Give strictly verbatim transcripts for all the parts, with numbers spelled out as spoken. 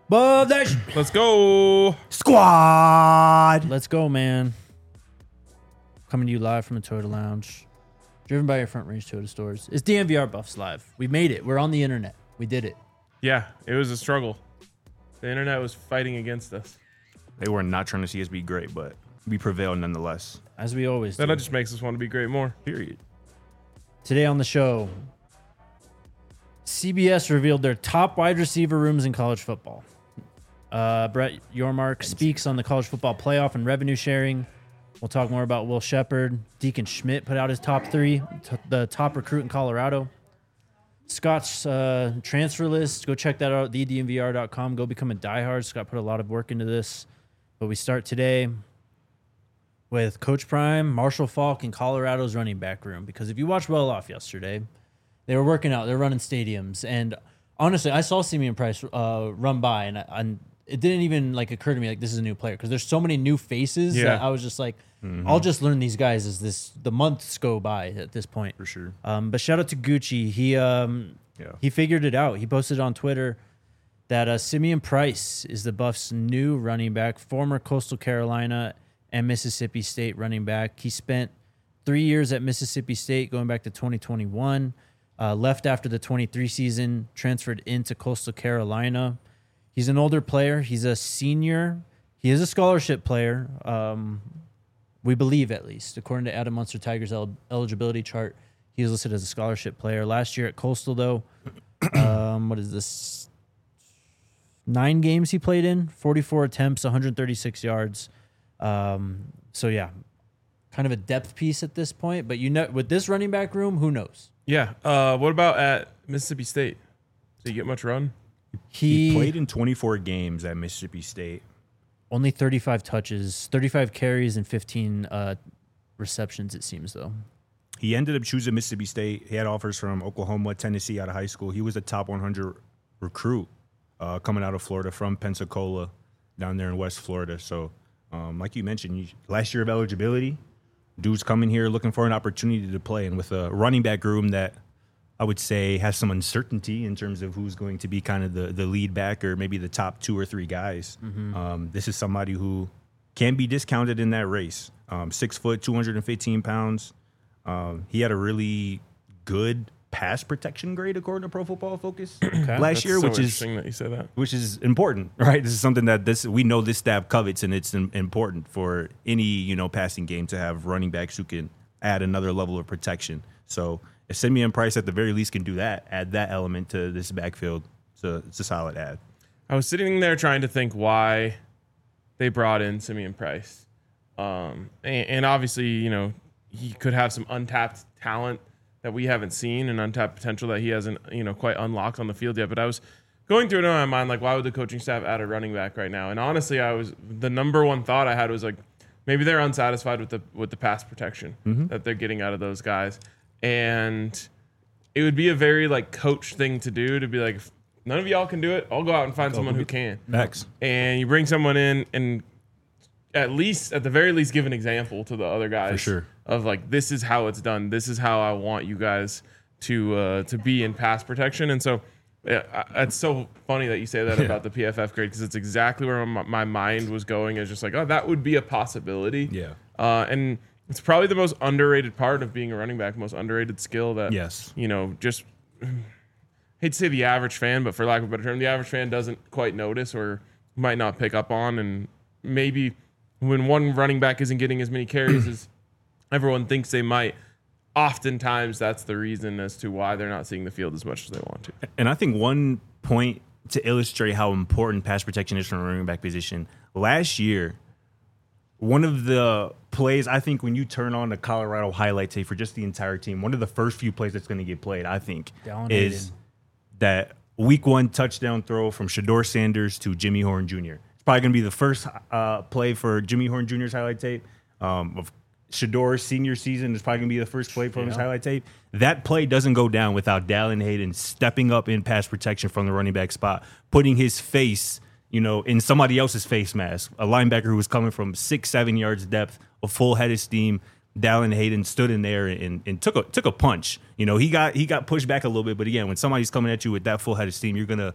Above that sh- Let's go. Squad. Let's go, man. Coming to you live from the Toyota Lounge. Driven by your Front Range Toyota stores. It's D M V R Buffs Live. We made it. We're on the internet. We did it. Yeah, it was a struggle. The internet was fighting against us. They were not trying to see us be great, but we prevailed nonetheless. As we always do. That just makes us want to be great more. Period. Today on the show, C B S revealed their top wide receiver rooms in college football. Uh, Brett Yormark speaks on the college football playoff and revenue sharing. We'll talk more about Will Shepard. Deacon Schmidt put out his top three, t- the top recruit in Colorado. Scott's uh, transfer list. Go check that out at the d m v r dot com. Go become a diehard. Scott put a lot of work into this. But we start today with Coach Prime, Marshall Falk, and Colorado's running back room. Because if you watched Well Off yesterday, they were working out. They're running stadiums. And honestly, I saw Simeon Price uh, run by, and, I, and it didn't even like occur to me like this is a new player. Because there's so many new faces Yeah. that I was just like, mm-hmm. I'll just learn these guys as this the months go by at this point. For sure. Um, but shout out to Gucci. He um, Yeah. he figured it out. He posted on Twitter that uh, Simeon Price is the Buffs' new running back, former Coastal Carolina and Mississippi State running back. He spent three years at Mississippi State, going back to twenty twenty-one. Uh, left after the twenty-three season, transferred into Coastal Carolina. He's an older player. He's a senior. He is a scholarship player. Um, we believe, at least, according to Adam Munster Tigers' el- eligibility chart, he was listed as a scholarship player. Last year at Coastal, though, um, what is this? Nine games he played in, forty-four attempts, one hundred thirty-six yards. Um, so, yeah, kind of a depth piece at this point. But you know, with this running back room, who knows? Yeah. Uh, what about at Mississippi State? Did he get much run? He, He played in twenty-four games at Mississippi State. only thirty-five touches, thirty-five carries, and fifteen uh, receptions, it seems, though. He ended up choosing Mississippi State. He had offers from Oklahoma, Tennessee out of high school. He was a top one hundred recruit uh, coming out of Florida from Pensacola down there in West Florida. So, um, like you mentioned, you, last year of eligibility, dude's coming here looking for an opportunity to play. And with a running back room that I would say has some uncertainty in terms of who's going to be kind of the, the lead back or maybe the top two or three guys, mm-hmm. um, this is somebody who can be discounted in that race. Um, six foot, two hundred fifteen pounds. Um, he had a really good pass protection grade according to Pro Football Focus okay. last That's year, so which is interesting that you say that. which is important, right? This is something that this we know this staff covets, and it's important for any you know passing game to have running backs who can add another level of protection. So if Simeon Price at the very least can do that, add that element to this backfield, so it's a solid add. I was sitting there trying to think why they brought in Simeon Price, um, and, and obviously you know he could have some untapped talent that we haven't seen and untapped potential that he hasn't, you know, quite unlocked on the field yet. But I was going through it in my mind, like, why would the coaching staff add a running back right now? And honestly, I was the number one thought I had was like, maybe they're unsatisfied with the with the pass protection mm-hmm. that they're getting out of those guys, and it would be a very like coach thing to do to be like, if none of y'all can do it, I'll go out and find someone who can. Max. And you bring someone in and at least, at the very least, give an example to the other guys. For sure. Of like, this is how it's done. This is how I want you guys to uh, to be in pass protection. And so yeah, it's so funny that you say that yeah. about the P F F grade because it's exactly where my, my mind was going. Is just like, oh, that would be a possibility. Yeah. Uh, and it's probably the most underrated part of being a running back, most underrated skill that, yes. you know, just hate to say the average fan, but for lack of a better term, the average fan doesn't quite notice or might not pick up on. And maybe when one running back isn't getting as many carries as everyone thinks they might, oftentimes that's the reason as to why they're not seeing the field as much as they want to. And I think one point to illustrate how important pass protection is from a running back position, last year, one of the plays, I think when you turn on the Colorado highlight tape for just the entire team, one of the first few plays that's going to get played, I think, Down is Hayden. that week one touchdown throw from Shador Sanders to Jimmy Horn Junior It's probably going to be the first uh, play for Jimmy Horn Junior's highlight tape. Um, of Shador's senior season is probably going to be the first play from yeah. his highlight tape. That play doesn't go down without Dallin Hayden stepping up in pass protection from the running back spot, putting his face, you know, in somebody else's face mask. A linebacker who was coming from six, seven yards depth, a full head of steam. Dallin Hayden stood in there and, and took a took a punch. You know, he got he got pushed back a little bit, but again, when somebody's coming at you with that full head of steam, you're gonna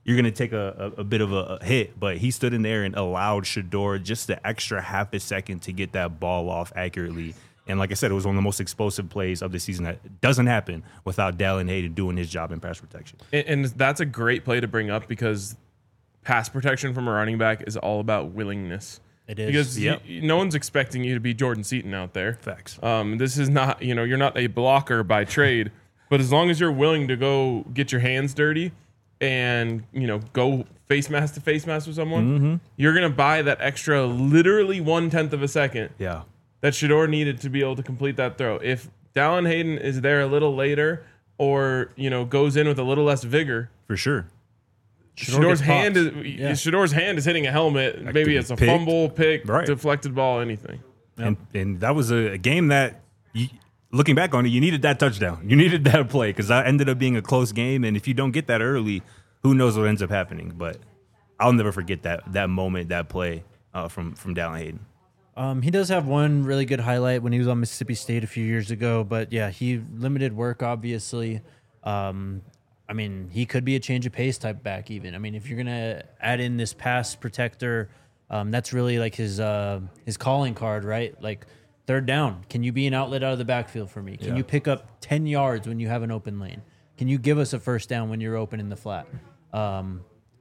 you're going to take a, a, a bit of a, a hit. But he stood in there and allowed Shedeur just the extra half a second to get that ball off accurately. And like I said, it was one of the most explosive plays of the season that doesn't happen without Dallin Hayden doing his job in pass protection. And, and that's a great play to bring up because pass protection from a running back is all about willingness. It is. Because Yep. you, no one's expecting you to be Jordan Seaton out there. Facts. Um, this is not, you know, you're not a blocker by trade, but as long as you're willing to go get your hands dirty and, you know, go face mask to face mask with someone, Mm-hmm. you're going to buy that extra literally one tenth of a second Yeah. that Shedeur needed to be able to complete that throw. If Dallin Hayden is there a little later or, you know, goes in with a little less vigor, For sure. Shedeur Shedeur's gets hand popped. is Yeah. Shedeur's hand is hitting a helmet. That Maybe could it's be a picked. fumble, pick, Right. deflected ball, anything. And and that was a, a game that, you, looking back on it, you needed that touchdown. You needed that play because that ended up being a close game. And if you don't get that early, who knows what ends up happening. But I'll never forget that that moment, that play uh, from, from Dallin Hayden. Um, he does have one really good highlight when he was on Mississippi State a few years ago, but yeah, he limited work, obviously. Um, I mean, he could be a change of pace type back even. I mean, if you're going to add in this pass protector, um, that's really like his uh, his calling card, right? Like third down, can you be an outlet out of the backfield for me? Can Yeah. you pick up ten yards when you have an open lane? Can you give us a first down when you're open in the flat? Um,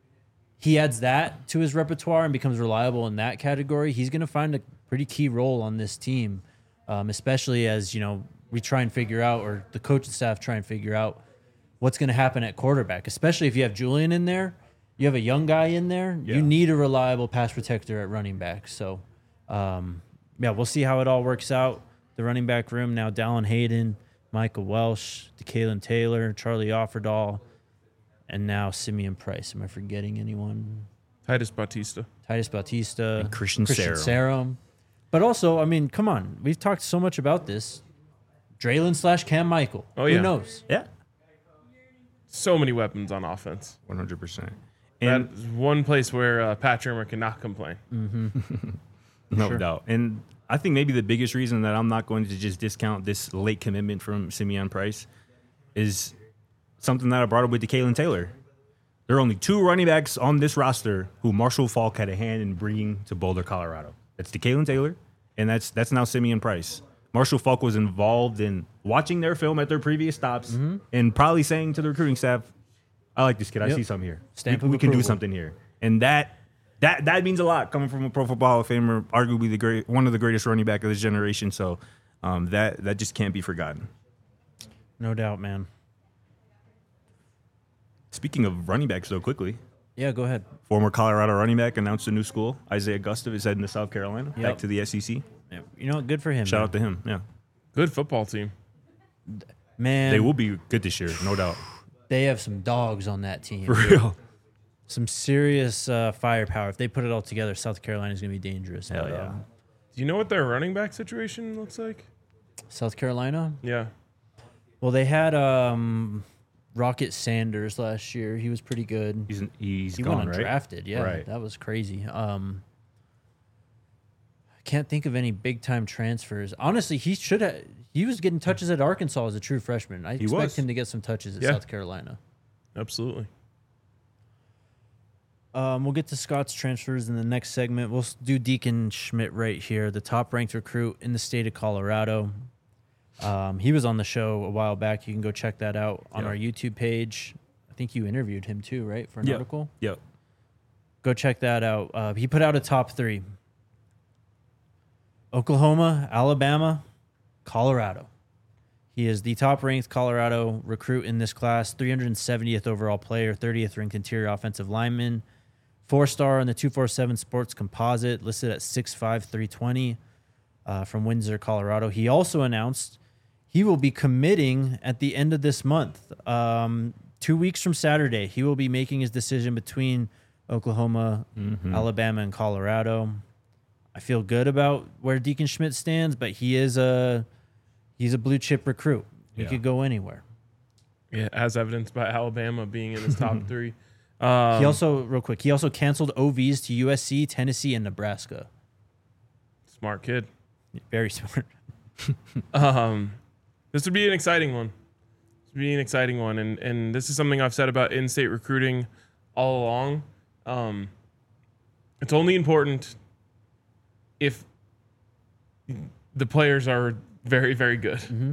he adds that to his repertoire and becomes reliable in that category. He's going to find a pretty key role on this team, um, especially as, you know, we try and figure out, or the coaching staff try and figure out what's going to happen at quarterback, especially if you have Julian in there, you have a young guy in there, Yeah. you need a reliable pass protector at running back. So, um, yeah, we'll see how it all works out. The running back room now, Dallin Hayden, Michael Welsh, DeKalen Taylor, Charlie Offerdahl, and now Simeon Price. Am I forgetting anyone? Titus Bautista. Titus Bautista, And Christian Sarum. Sarum. But also, I mean, come on. We've talked so much about this. Draylon slash Cam Michael. Oh, Who yeah. knows? Yeah. So many weapons on offense. one hundred percent. That And is one place where uh, Pat Trimmer cannot complain. no Sure. doubt. And I think maybe the biggest reason that I'm not going to just discount this late commitment from Simeon Price is something that I brought up with DeKalen Taylor. There are only two running backs on this roster who Marshall Falk had a hand in bringing to Boulder, Colorado. That's DeKalen Taylor, and that's that's now Simeon Price. Marshall Falk was involved in watching their film at their previous stops Mm-hmm. and probably saying to the recruiting staff, I like this kid. I Yep. see something here. Stamp we of we can do approval. something here. And that that that means a lot coming from a Pro Football Hall of Famer, arguably the great one of the greatest running back of this generation. So um, that that just can't be forgotten. No doubt, man. Speaking of running backs, though, quickly, Yeah, go ahead. former Colorado running back announced a new school. Isaiah Gustav is heading to South Carolina, Yep. back to the S E C. Yeah, you know, good for him. Shout man. out to him. Yeah, Good football team. Man, they will be good this year, no doubt. they have some dogs on that team. For real. Some serious uh, firepower. If they put it all together, South Carolina is going to be dangerous. Hell But, yeah. um, Do you know what their running back situation looks like? South Carolina? Yeah. Well, they had um, Rocket Sanders last year. He was pretty good. He's he's He gone, went right? undrafted. Yeah, Right. that was crazy. Um, I can't think of any big time transfers. Honestly, he should have. He was getting touches at Arkansas as a true freshman. I expect was. him to get some touches at Yeah. South Carolina. Absolutely. Um, we'll get to Scott's transfers in the next segment. We'll s- do Deacon Schmidt right here, the top ranked recruit in the state of Colorado. Um, he was on the show a while back. You can go check that out on Yeah. our YouTube page. I think you interviewed him too, right, for an Yep. article? Yep. Go check that out. Uh, he put out a top three: Oklahoma, Alabama, Colorado. He is the top-ranked Colorado recruit in this class, three hundred seventieth overall player, thirtieth ranked interior offensive lineman, four-star on the two forty-seven Sports Composite, listed at six five, three twenty, uh, from Windsor, Colorado. He also announced he will be committing at the end of this month. Um, two weeks from Saturday, he will be making his decision between Oklahoma, Alabama, and Colorado. I feel good about where Deacon Schmidt stands, but he is a he's a blue chip recruit. He Yeah. could go anywhere. Yeah, as evidenced by Alabama being in his top three. Um, He also, real quick, he also canceled O Vs to U S C, Tennessee, and Nebraska. smart kid. Very smart. Um, this would be an exciting one. This would be an exciting one, and and this is something I've said about in-state recruiting all along. Um, it's only important if the players are very, very good. Mm-hmm.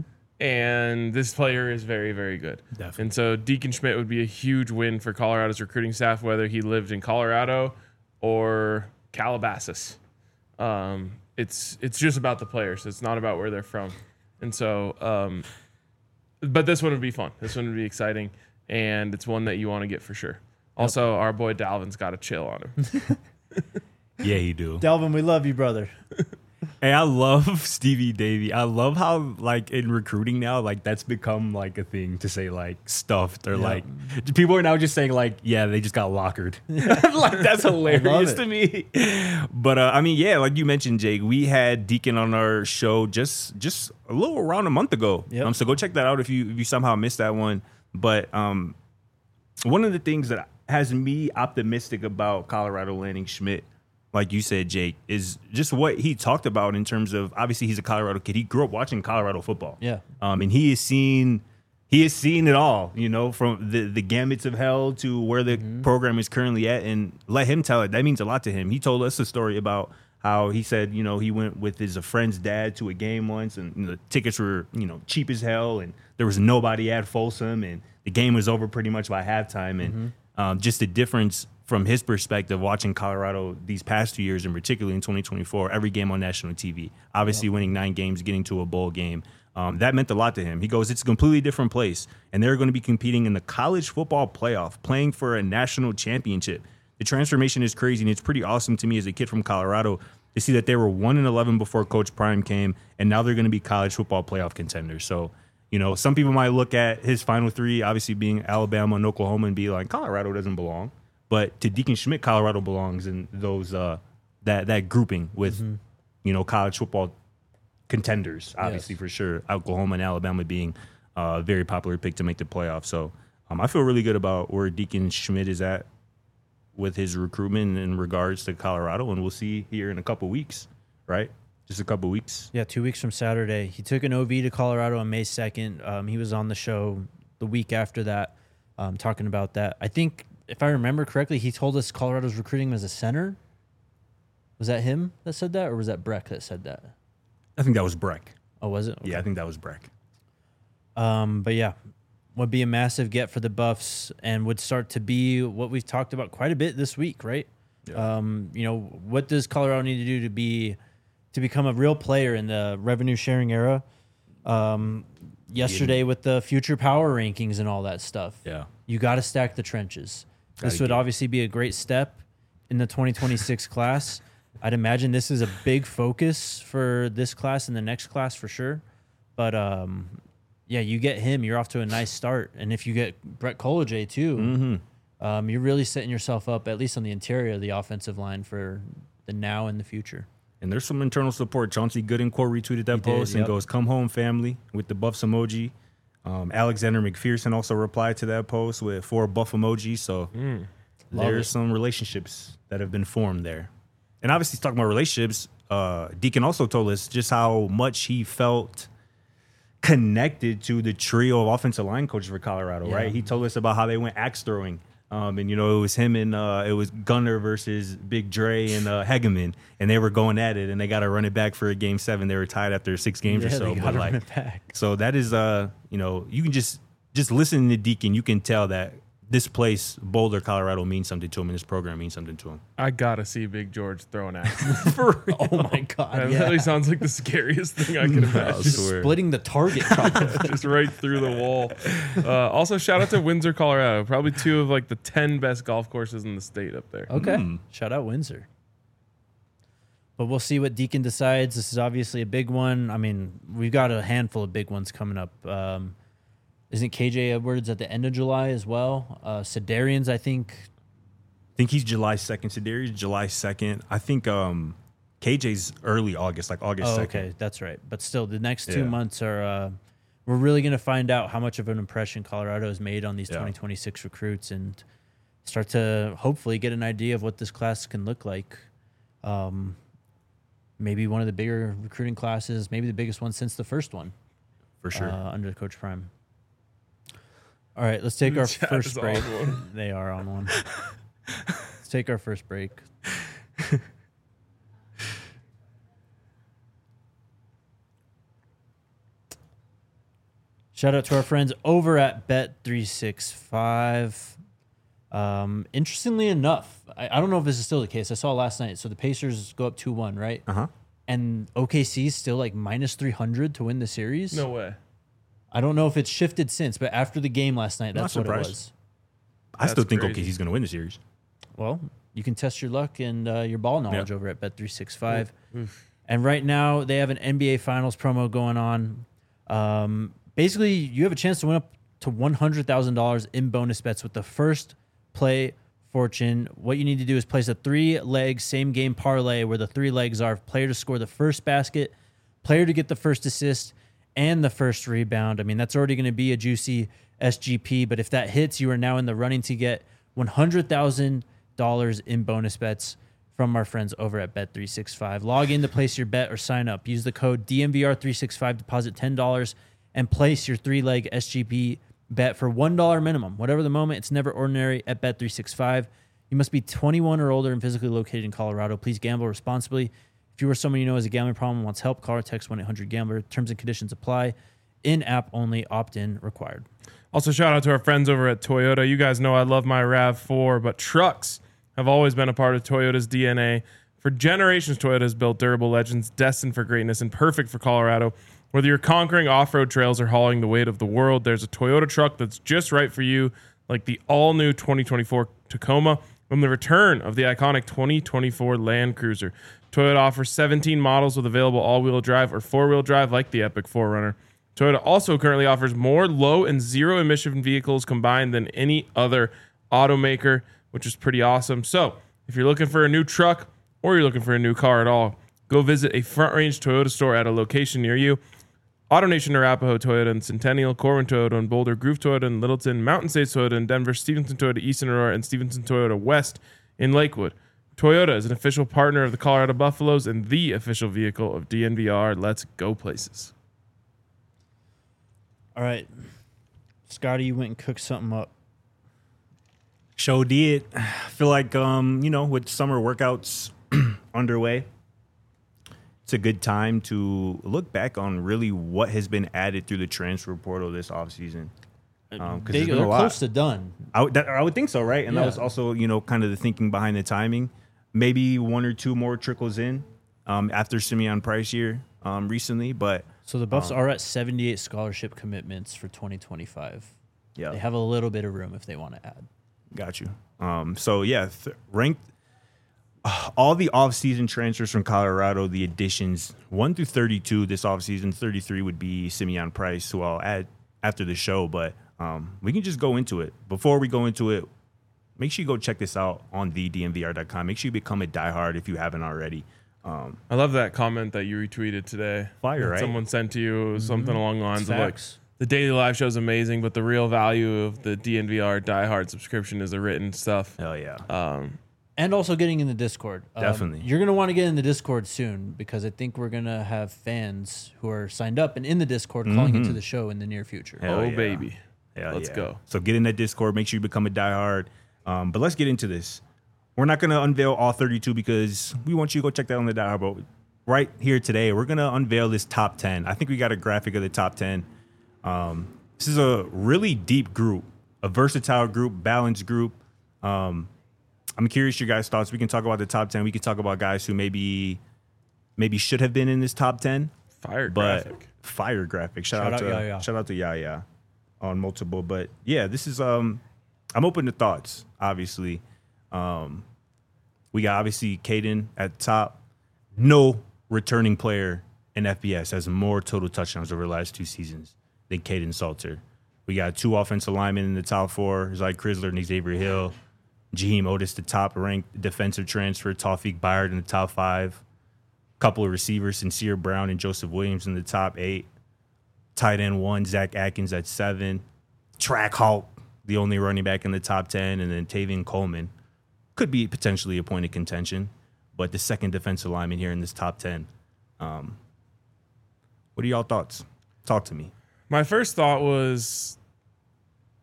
And this player is very, very good. Definitely. And so Deacon Schmidt would be a huge win for Colorado's recruiting staff, whether he lived in Colorado or Calabasas. Um, it's it's just about the players. It's not about where they're from. And so, um, but this one would be fun. This one would be exciting. And it's one that you want to get for sure. Also, our boy Dalvin's got to chill on him. Yeah, you do. Delvin, we love you, brother. Hey, I love Stevie Davy. I love how, like, in recruiting now, like, that's become, like, a thing to say, like, stuffed or, Yeah. like, people are now just saying, like, yeah, they just got lockered. Like, that's hilarious it. to me. But, uh, I mean, yeah, like you mentioned, Jake, we had Deacon on our show just just a little around a month ago. Yep. Um, so go check that out if you if you somehow missed that one. But um, one of the things that has me optimistic about Colorado landing Schmidt, like you said, Jake, is just what he talked about in terms of, obviously he's a Colorado kid. He grew up watching Colorado football. Yeah. Um, and he has seen he has seen it all, you know, from the, the gamuts of hell to where the program is currently at. And let him tell it. That means a lot to him. He told us a story about how he said, you know, he went with his a friend's dad to a game once, and you know, the tickets were, you know, cheap as hell, and there was nobody at Folsom, and the game was over pretty much by halftime. And um, just the difference from his perspective, watching Colorado these past two years, and particularly in twenty twenty-four, every game on national T V, obviously winning nine games, getting to a bowl game, um, that meant a lot to him. He goes, it's a completely different place, and they're going to be competing in the college football playoff, playing for a national championship. The transformation is crazy, and it's pretty awesome to me as a kid from Colorado to see that they were one and eleven before Coach Prime came, and now they're going to be college football playoff contenders. So, you know, some people might look at his final three, obviously being Alabama and Oklahoma, and be like, Colorado doesn't belong. But to Deacon Schmidt, Colorado belongs in those uh, that that grouping with, mm-hmm. you know, college football contenders, obviously, yes. for sure. Oklahoma and Alabama being a very popular pick to make the playoffs. So um, I feel really good about where Deacon Schmidt is at with his recruitment in regards to Colorado, and we'll see here in a couple weeks, right? Just a couple weeks. Yeah, two weeks from Saturday. He took an O V to Colorado on May second. Um, he was on the show the week after that, um, talking about that. I think, if I remember correctly, he told us Colorado's recruiting him as a center. Was that him that said that, or was that Breck that said that? I think that was Breck. Oh, was it? Okay. Yeah, I think that was Breck. Um, but yeah, would be a massive get for the Buffs, and would start to be what we've talked about quite a bit this week, right? Yeah. Um, you know, what does Colorado need to do to be to become a real player in the revenue sharing era? Um, yesterday Yeah. with the future power rankings and all that stuff. Yeah. You got to stack the trenches. Gotta This would get- obviously be a great step in the twenty twenty-six class. I'd imagine this is a big focus for this class and the next class for sure. But um, yeah, you get him, you're off to a nice start. And if you get Brett Collegier too, Mm-hmm. um, you're really setting yourself up, at least on the interior of the offensive line, for the now and the future. And there's some internal support. Chauncey Goodencourt retweeted that He did, post and yep. goes, "Come home, family," with the Buffs emoji. Um, Alexander McPherson also replied to that post with four Buff emojis. So Love there's it. some relationships that have been formed there. And obviously, talking about relationships, uh, Deacon also told us just how much he felt connected to the trio of offensive line coaches for Colorado, Yeah. right? He told us about how they went axe throwing. Um, and, you know, it was him and uh, it was Gunner versus Big Dre and uh, Hegeman. And they were going at it, and they got to run it back for a game seven. They were tied after six games Yeah, or so. they But gotta like, run it back. so that is, uh, you know, you can just just listen to Deacon. You can tell that this place, Boulder, Colorado, means something to him, and this program means something to him. I gotta see Big George throw an axe. For real. Oh my God! That yeah. literally sounds like the scariest thing I can I imagine. swear. Splitting the target. Probably. Just right through the wall. Uh, also, shout out to Windsor, Colorado. Probably two of like the ten best golf courses in the state up there. Okay. Mm. Shout out Windsor. But we'll see what Deacon decides. This is obviously a big one. I mean, we've got a handful of big ones coming up. Um, isn't K J Edwards at the end of July as well? Uh, Sedarian's, I think. I think he's July second. Sedarius July second. I think um, K J's early August, like August Oh, second. okay. That's right. But still, the next two Yeah. months are, uh, we're really going to find out how much of an impression Colorado has made on these Yeah. twenty twenty-six recruits and start to hopefully get an idea of what this class can look like. Um, maybe one of the bigger recruiting classes, maybe the biggest one since the first one. For sure. Uh, under Coach Prime. All right, let's take our Chat first is on break. one. They are on one. Let's take our first break. Shout out to our friends over at Bet three sixty-five. Um, interestingly enough, I, I don't know if this is still the case. I saw last night. So the Pacers go up two one, right? Uh-huh. And O K C is still like minus three hundred to win the series. No way. I don't know if it's shifted since, but after the game last night, Not that's what it surprised. was. I still That's think crazy. O K C's going to win the series. Well, you can test your luck and uh, your ball knowledge Yep. over at Bet three sixty-five. And right now, they have an N B A Finals promo going on. Um, basically, you have a chance to win up to one hundred thousand dollars in bonus bets with the first play fortune. What you need to do is place a three-leg same-game parlay where the three legs are player to score the first basket, player to get the first assist, and the first rebound. I mean, that's already going to be a juicy S G P, but if that hits, you are now in the running to get one hundred thousand dollars in bonus bets from our friends over at Bet three sixty-five. Log in to place your bet or sign up. Use the code D M V R three sixty-five, deposit ten dollars, and place your three-leg S G P bet for one dollar minimum. Whatever the moment, it's never ordinary at Bet three sixty-five. You must be twenty-one or older and physically located in Colorado. Please gamble responsibly. If you or someone you know has a gambling problem and wants help, call or text one eight hundred gambler. Terms and conditions apply. In-app only, opt-in required. Also, shout out to our friends over at Toyota. You guys know I love my RAV four, but trucks have always been a part of Toyota's D N A. For generations, Toyota has built durable legends destined for greatness and perfect for Colorado. Whether you're conquering off-road trails or hauling the weight of the world, there's a Toyota truck that's just right for you, like the all-new twenty twenty-four Tacoma and the return of the iconic twenty twenty-four Land Cruiser. Toyota offers seventeen models with available all-wheel drive or four-wheel drive like the Epic four runner. Toyota also currently offers more low and zero emission vehicles combined than any other automaker, which is pretty awesome. So if you're looking for a new truck or you're looking for a new car at all, go visit a Front Range Toyota store at a location near you. AutoNation, Arapahoe Toyota and Centennial, Corwin Toyota and Boulder, Groove Toyota and Littleton, Mountain States Toyota in Denver, Stevenson Toyota East in Aurora, and Stevenson Toyota West in Lakewood. Toyota is an official partner of the Colorado Buffaloes and the official vehicle of D N V R. Let's go places. All right. Scotty, you went and cooked something up. Show did. I feel like, um, you know, with summer workouts underway, it's a good time to look back on really what has been added through the transfer portal this offseason. Um, 'cause They, there's been they're a lot. close to done. I would, that, I would think so, right? And Yeah. that was also, you know, kind of the thinking behind the timing. Maybe one or two more trickles in um, after Simeon Price year um, recently, but So the Buffs Um, are at seventy-eight scholarship commitments for twenty twenty-five. yeah, They have a little bit of room if they want to add. got you. Um, so yeah, th- ranked uh, all the offseason transfers from Colorado, the additions one through thirty-two this offseason. thirty-three would be Simeon Price, who I'll add after the show, but um, we can just go into it. Before we go into it, make sure you go check this out on the D M V R dot com. Make sure you become a diehard if you haven't already. Um, I love that comment that you retweeted today. Fire, that right? Someone sent to you. It was something along the lines It's of like, facts. the daily live show is amazing, but the real value of the D N V R diehard subscription is the written stuff. hell yeah. Um, And also getting in the Discord. Um, Definitely. You're going to want to get in the Discord soon because I think we're going to have fans who are signed up and in the Discord calling into the show in the near future. Hell oh, yeah. baby. Hell Let's yeah. go. So get in that Discord. Make sure you become a diehard. Um, but let's get into this. We're not going to unveil all thirty-two because we want you to go check that on the diehard. But right here today, we're going to unveil this top ten. I think we got a graphic of the top ten. Um, this is a really deep group, a versatile group, balanced group. Um, I'm curious your guys' thoughts. We can talk about the top ten. We can talk about guys who maybe maybe should have been in this top ten. Fire But graphic. fire graphic. Shout, Shout out, out to Yaya. shout out to Yaya on multiple. But yeah, this is um I'm open to thoughts, obviously. Um we got obviously Caden at the top. No returning player in F B S has more total touchdowns over the last two seasons than Caden Salter. We got two offensive linemen in the top four, Zy Chrysler and Xavier Hill. Jaheim Otis, the top ranked defensive transfer. Tawfiq Byard in the top five. Couple of receivers, Sincere Brown and Joseph Williams in the top eight. Tight end one, Zach Atkins at seven. Track Hulk, the only running back in the top ten. And then Tavian Coleman could be potentially a point of contention, but the second defensive lineman here in this top ten. Um, what are y'all thoughts? Talk to me. My first thought was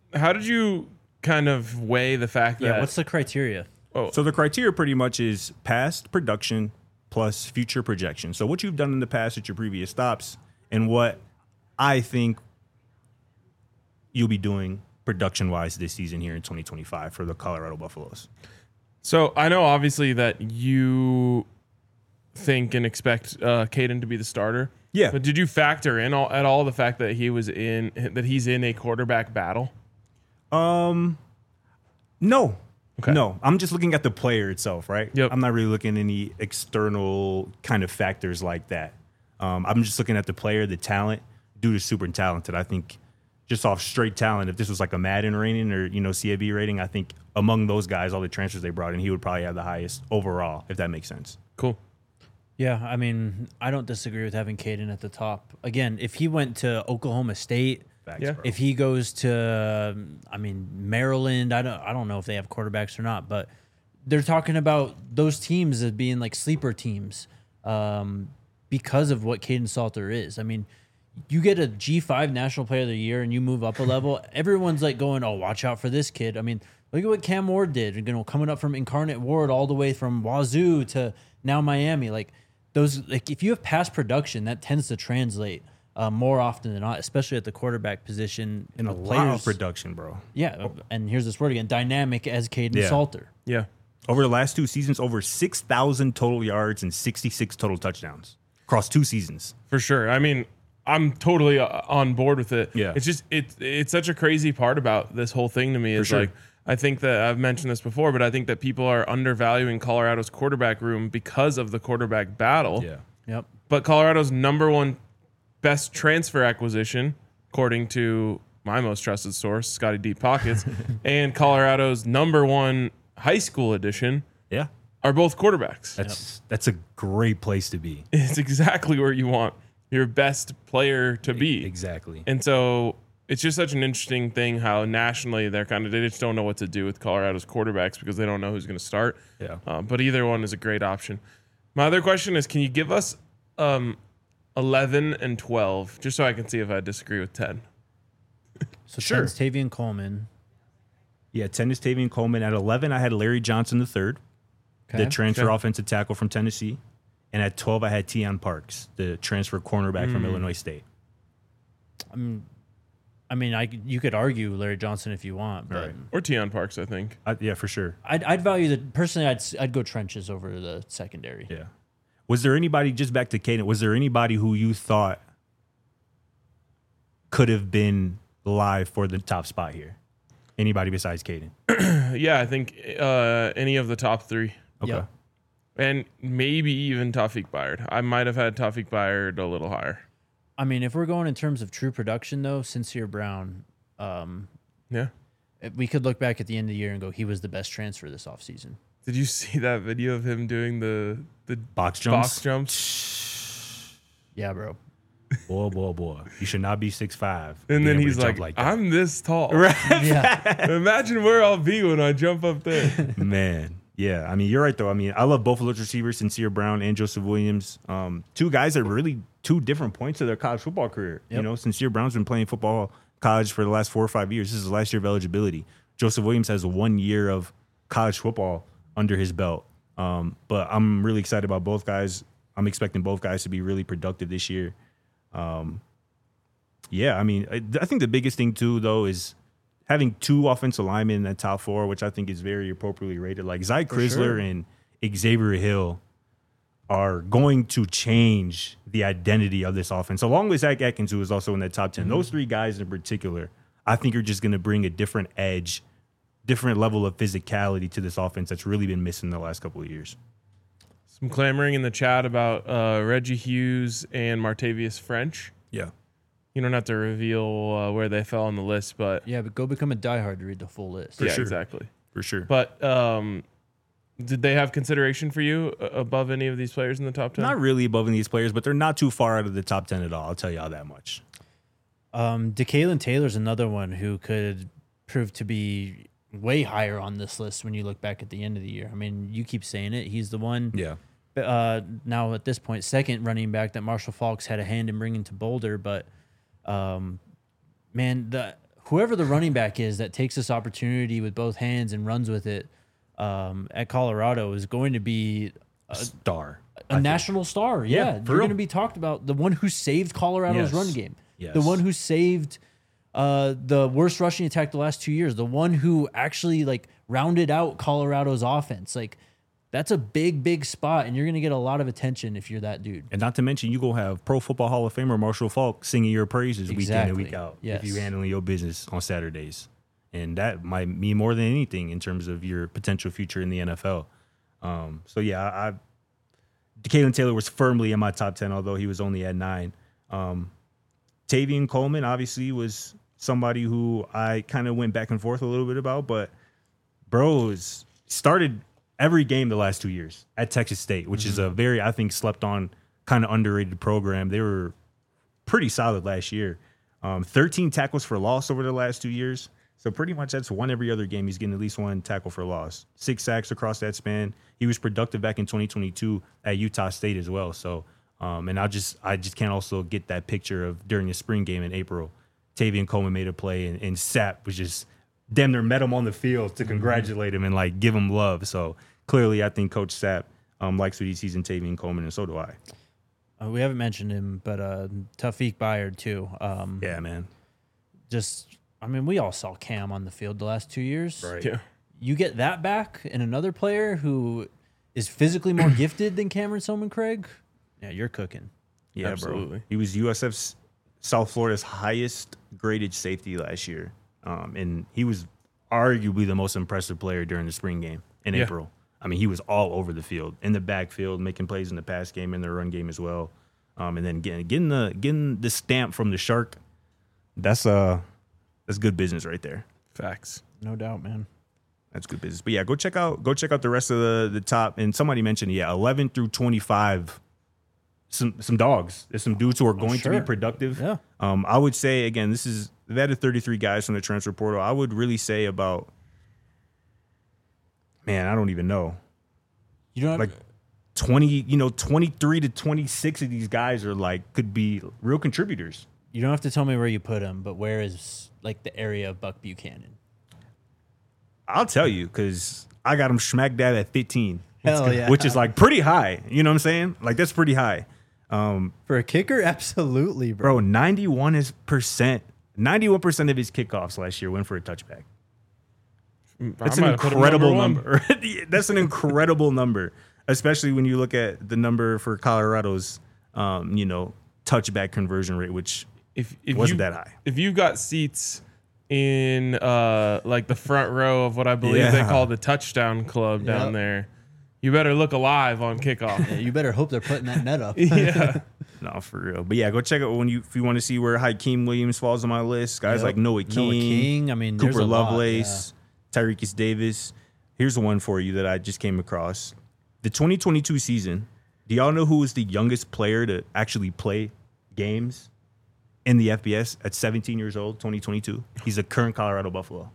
how did you kind of weigh the fact Yeah, that what's the criteria? oh, So the criteria pretty much is past production plus future projection. So what you've done in the past at your previous stops and what I think you'll be doing production-wise this season here in twenty twenty-five for the Colorado Buffaloes. so I know obviously that you think and expect uh, Caden to be the starter. Yeah. But did you factor in all, at all the fact that he was in that he's in a quarterback battle? Um, no. Okay. No, I'm just looking at the player itself, right? Yep. I'm not really looking at any external kind of factors like that. Um, I'm just looking at the player, the talent. Dude is super talented. I think just off straight talent, if this was like a Madden rating or, you know, C A B rating, I think among those guys, all the transfers they brought in, he would probably have the highest overall, if that makes sense. Cool. Yeah, I mean, I don't disagree with having Caden at the top. Again, if he went to Oklahoma State, Facts, Yeah. bro. if he goes to, um, I mean, Maryland, I don't, I don't know if they have quarterbacks or not, but they're talking about those teams as being like sleeper teams um, because of what Caden Salter is. I mean, you get a G five National Player of the Year and you move up a level, everyone's like going, oh, watch out for this kid. I mean, look at what Cam Ward did, you know, coming up from Incarnate Ward all the way from Wazoo to now Miami. Like those, like if you have past production, that tends to translate uh, more often than not, especially at the quarterback position. And a The lot of production, bro. yeah, and here's this word again: dynamic as Caden Yeah. Salter. Yeah. Over the last two seasons, over six thousand total yards and sixty-six total touchdowns across two seasons. For sure. I mean, I'm totally uh, on board with it. Yeah. It's just it it's such a crazy part about this whole thing to me is sure. like I think that I've mentioned this before, but I think that people are undervaluing Colorado's quarterback room because of the quarterback battle. Yep. But Colorado's number one best transfer acquisition, according to my most trusted source, Scotty Deep Pockets, and Colorado's number one high school edition Yeah. are both quarterbacks. That's that's a great place to be. It's exactly where you want your best player to be. Exactly. And so it's just such an interesting thing how nationally they're kind of they just don't know what to do with Colorado's quarterbacks because they don't know who's going to start. Yeah. Uh, but either one is a great option. My other question is, can you give us um, eleven and twelve, just so I can see if I disagree with ten? So Sure. ten's Tavian Coleman. Yeah, ten is Tavian Coleman. At eleven, I had Larry Johnson the third, Okay. the transfer Okay. offensive tackle from Tennessee. And at twelve, I had Tion Parks, the transfer cornerback from Illinois State. I mean, I could- you could argue Larry Johnson if you want, but Right. Or Tion Parks, I think. I, yeah, for sure. I'd, I'd value the personally. I'd s- I'd go trenches over the secondary. Yeah. Was there anybody, just back to Caden, was there anybody who you thought could have been live for the top spot here? Anybody besides Caden? Yeah, I think uh, any of the top three. Okay. Yep. And maybe even Tawfiq Bayard. I might have had Tawfiq Bayard a little higher. I mean, if we're going in terms of true production, though, Sincere Brown, um, Yeah. we could look back at the end of the year and go, he was the best transfer this offseason. Did you see that video of him doing the the Box jumps? box jumps? Yeah, bro. Boy, boy, boy. You should not be six five. And then he's like, that. I'm this tall. Yeah. Imagine where I'll be when I jump up there. Man. Yeah, I mean, you're right, though. I mean, I love both of those receivers, Sincere Brown and Joseph Williams. Um, two guys at really two different points of their college football career. You Yep. know, Sincere Brown's been playing football college for the last four or five years. This is his last year of eligibility. Joseph Williams has one year of college football under his belt. Um, but I'm really excited about both guys. I'm expecting both guys to be really productive this year. Um, yeah, I mean, I, I think the biggest thing, too, though, is having two offensive linemen in that top four, which I think is very appropriately rated. Like Zy Chrysler sure. and Xavier Hill are going to change the identity of this offense, along with Zach Atkins, who is also in that top ten. Mm-hmm. Those three guys in particular, I think are just going to bring a different edge, different level of physicality to this offense that's really been missing the last couple of years. Some clamoring in the chat about uh, Reggie Hughes and Martavius French. Yeah. You don't have to reveal uh, where they fell on the list, but Yeah, but go become a diehard to read the full list. yeah, sure. exactly. For sure. But um, did they have consideration for you uh, above any of these players in the top ten? Not really above these players, but they're not too far out of the top ten at all. I'll tell you all that much. Um, DeKalen Taylor's another one who could prove to be way higher on this list when you look back at the end of the year. I mean, you keep saying it. He's the one. Yeah. Uh, now at this point, second running back that Marshall Falks had a hand in bringing to Boulder, but um, man, the whoever the running back is that takes this opportunity with both hands and runs with it um, at Colorado is going to be A star. a national star. Yeah, Yeah, for you're real. going to be talked about. The one who saved Colorado's Yes. run game. Yes. The one who saved uh, the worst rushing attack the last two years. The one who actually like rounded out Colorado's offense. Like that's a big, big spot, and you're going to get a lot of attention if you're that dude. And not to mention, you go have Pro Football Hall of Famer Marshall Falk singing your praises week in and Exactly. week out. Yes. If you handling your business on Saturdays, and that might mean more than anything in terms of your potential future in the N F L. Um, so yeah, I, I Kalen Taylor was firmly in my top ten, although he was only at nine. Um, Tavian Coleman obviously was somebody who I kind of went back and forth a little bit about, but bro has started every game the last two years at Texas State, which is a very, I think, slept on, kind of underrated program. They were pretty solid last year. Um, thirteen tackles for loss over the last two years. So pretty much that's one every other game. He's getting at least one tackle for loss. Six sacks across that span. He was productive back in twenty twenty-two at Utah State as well. So, um, and I just I just can't also get that picture of during the spring game in April, Tavian Coleman made a play and, and Sapp was just damn near met him on the field to congratulate him and like give him love. So clearly, I think Coach Sapp um, likes what he sees in Tavian Coleman, and so do I. Uh, we haven't mentioned him, but uh, Tawfiq Bayard too. Um, Yeah, man. Just, I mean, we all saw Cam on the field the last two years. Right. Yeah. You get that back and another player who is physically more gifted than Cameron Soman Craig. Yeah, you're cooking. Yeah, Absolutely. bro. He was U S F's South Florida's highest graded safety last year. Um, and he was arguably the most impressive player during the spring game in Yeah. April. I mean, he was all over the field, in the backfield, making plays in the pass game, in the run game as well. Um, and then getting getting the getting the stamp from the Shark. That's uh that's good business right there. Facts. No doubt, man. That's good business. But yeah, go check out go check out the rest of the the top. And somebody mentioned, yeah, eleven through twenty-five. Some some dogs. There's some dudes who are going to sure. be productive. Yeah. Um, I would say again, this is they've added thirty-three guys from the transfer portal. I would really say about, man, I don't even know, You don't have, like twenty, you know, twenty-three to twenty-six of these guys are like could be real contributors. you don't have to tell me where you put him, but where is like the area of Buck Buchanan? I'll tell you because I got him smack dab at fifteen, Hell yeah. which is like pretty high. You know what I'm saying? Like that's pretty high. Um, For a kicker, absolutely, bro. bro, ninety-one is percent, ninety-one percent of his kickoffs last year went for a touchback. That's I an might have put him incredible number one. number. That's an incredible number, especially when you look at the number for Colorado's, um, you know, touchback conversion rate, which If, if wasn't you, that high. If you got seats in uh, like the front row of what I believe they Yeah. call the touchdown club down Yep. there, you better look alive on kickoff. Yeah, you better hope they're putting that net up. yeah. No, for real. But yeah, go check out when you if you want to see where Hakeem Williams falls on my list. Guys Yep. like Noah King, Noah King. I mean, there's Cooper a lot, Lovelace, Tyreekis Davis. Here's one for you that I just came across. The twenty twenty-two season. Do y'all know who was the youngest player to actually play games in the F B S at seventeen years old, twenty twenty-two? He's a current Colorado Buffalo.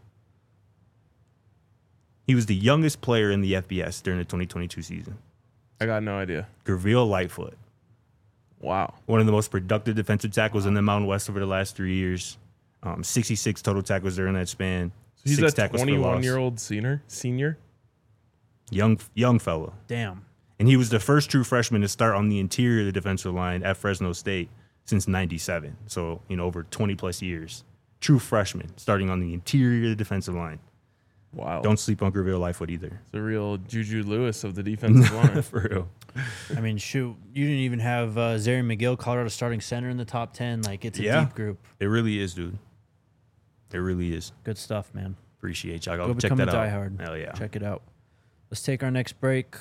He was the youngest player in the F B S during the twenty twenty-two season. I got no idea. Gurville Lightfoot, Wow. one of the most productive defensive tackles in the Mountain West over the last three years. Um, sixty-six total tackles during that span. He's Six a tackles for loss. twenty-one-year-old senior. Senior. Young, young fella. Damn. And he was the first true freshman to start on the interior of the defensive line at Fresno State since ninety-seven. So, you know, over twenty plus years. True freshman starting on the interior of the defensive line. Wow. Don't sleep on Gurville Lightfoot either. It's a real Juju Lewis of the defensive line. For real. I mean, shoot, you didn't even have uh, Zary McGill, Colorado starting center in the top ten. Like, it's a Yeah. deep group. It really is, dude. It really is. Good stuff, man. Appreciate y'all. Go Go check become that a out. diehard. Hell yeah. Check it out. Let's take our next break.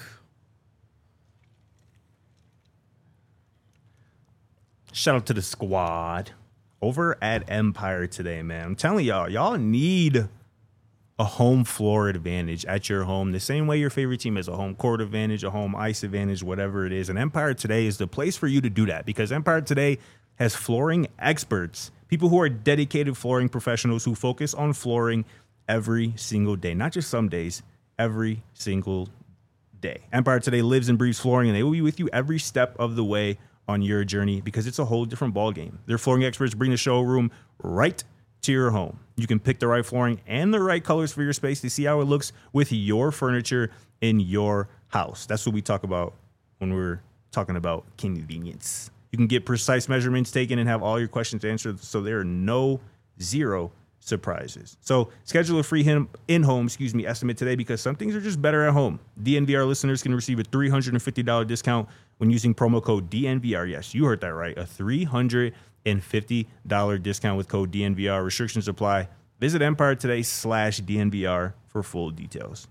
Shout out to the squad over at Empire today, man. I'm telling y'all, y'all need a home floor advantage at your home, the same way your favorite team has a home court advantage, a home ice advantage, whatever it is. And Empire Today is the place for you to do that because Empire Today has flooring experts, people who are dedicated flooring professionals who focus on flooring every single day, not just some days, every single day. Empire Today lives and breathes flooring, and they will be with you every step of the way on your journey because it's a whole different ballgame. Their flooring experts bring the showroom right to your home. You can pick the right flooring and the right colors for your space to see how it looks with your furniture in your house. That's what we talk about when we're talking about convenience. You can get precise measurements taken and have all your questions answered, so there are no zero surprises. So schedule a free him- in-home, excuse me, estimate today, because some things are just better at home. D N V R listeners can receive a three hundred fifty dollars discount when using promo code D N V R. Yes, you heard that right. A three hundred fifty dollars discount with code D N V R. Restrictions apply. Visit Empire Today slash D N V R for full details.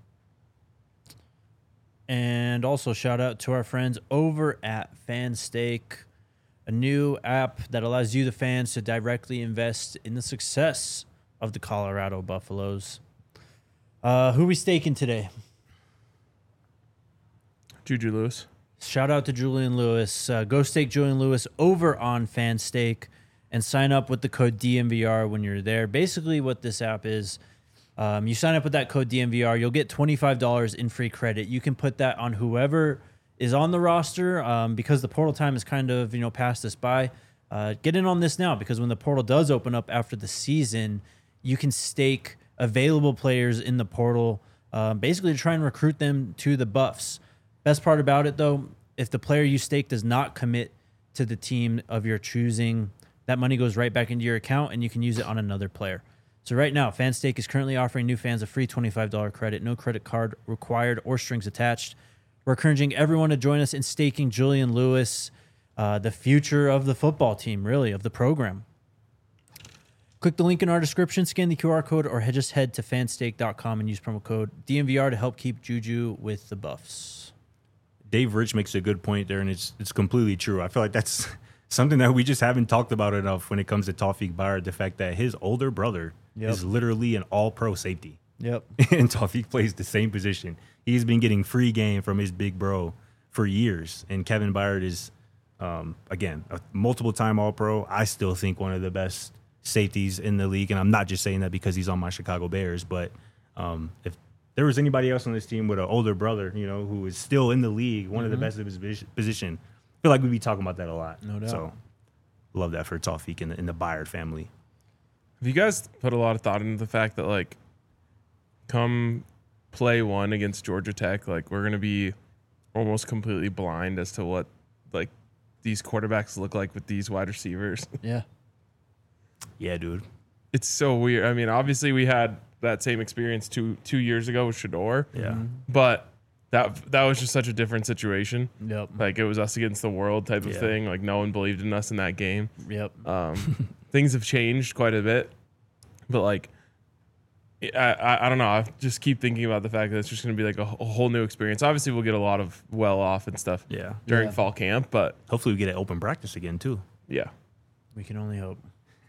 And also shout out to our friends over at FanStake, a new app that allows you, the fans, to directly invest in the success of the Colorado Buffaloes. Uh, who we staking today? Juju Lewis. Shout out to Julian Lewis. Uh, go stake Julian Lewis over on FanStake and sign up with the code D N V R when you're there. Basically, what this app is, um, you sign up with that code D N V R, you'll get twenty-five dollars in free credit. You can put that on whoever is on the roster, um, because the portal time is kind of, you know, passed us by. Uh, get in on this now, because when the portal does open up after the season, you can stake available players in the portal, uh, basically to try and recruit them to the Buffs. Best part about it, though, if the player you stake does not commit to the team of your choosing, that money goes right back into your account and you can use it on another player. So right now, FanStake is currently offering new fans a free twenty-five dollars credit, no credit card required or strings attached. We're encouraging everyone to join us in staking Julian Lewis, uh, the future of the football team, really, of the program. Click the link in our description, scan the Q R code, or just head to fanstake dot com and use promo code D N V R to help keep Juju with the Buffs. Dave Rich makes a good point there, and it's it's completely true. I feel like that's something that we just haven't talked about enough when it comes to Tawfiq Bayard, the fact that his older brother Yep. is literally an all-pro safety. Yep. And Tawfiq plays the same position. He's been getting free game from his big bro for years. And Kevin Byard is, um, again, a multiple-time All-Pro. I still think one of the best safeties in the league. And I'm not just saying that because he's on my Chicago Bears. But um, if there was anybody else on this team with an older brother, you know, who is still in the league, one Mm-hmm. of the best of his vis- position, I feel like we'd be talking about that a lot. No doubt. So love that for Tawfiq and the, and the Byard family. Have you guys put a lot of thought into the fact that, like, come play one against Georgia Tech, like, we're going to be almost completely blind as to what, like, these quarterbacks look like with these wide receivers? Yeah. Yeah, dude. It's so weird. I mean, obviously we had that same experience two two years ago with Shador. Yeah. But that that was just such a different situation. Yep. Like, it was us against the world type of Yeah. thing. Like, no one believed in us in that game. Yep. Um, things have changed quite a bit, but like, I, I I don't know. I just keep thinking about the fact that it's just going to be like a, a whole new experience. Obviously, we'll get a lot of well off and stuff Yeah. during Yeah. fall camp, but Hopefully we get an open practice again, too. yeah, We can only hope.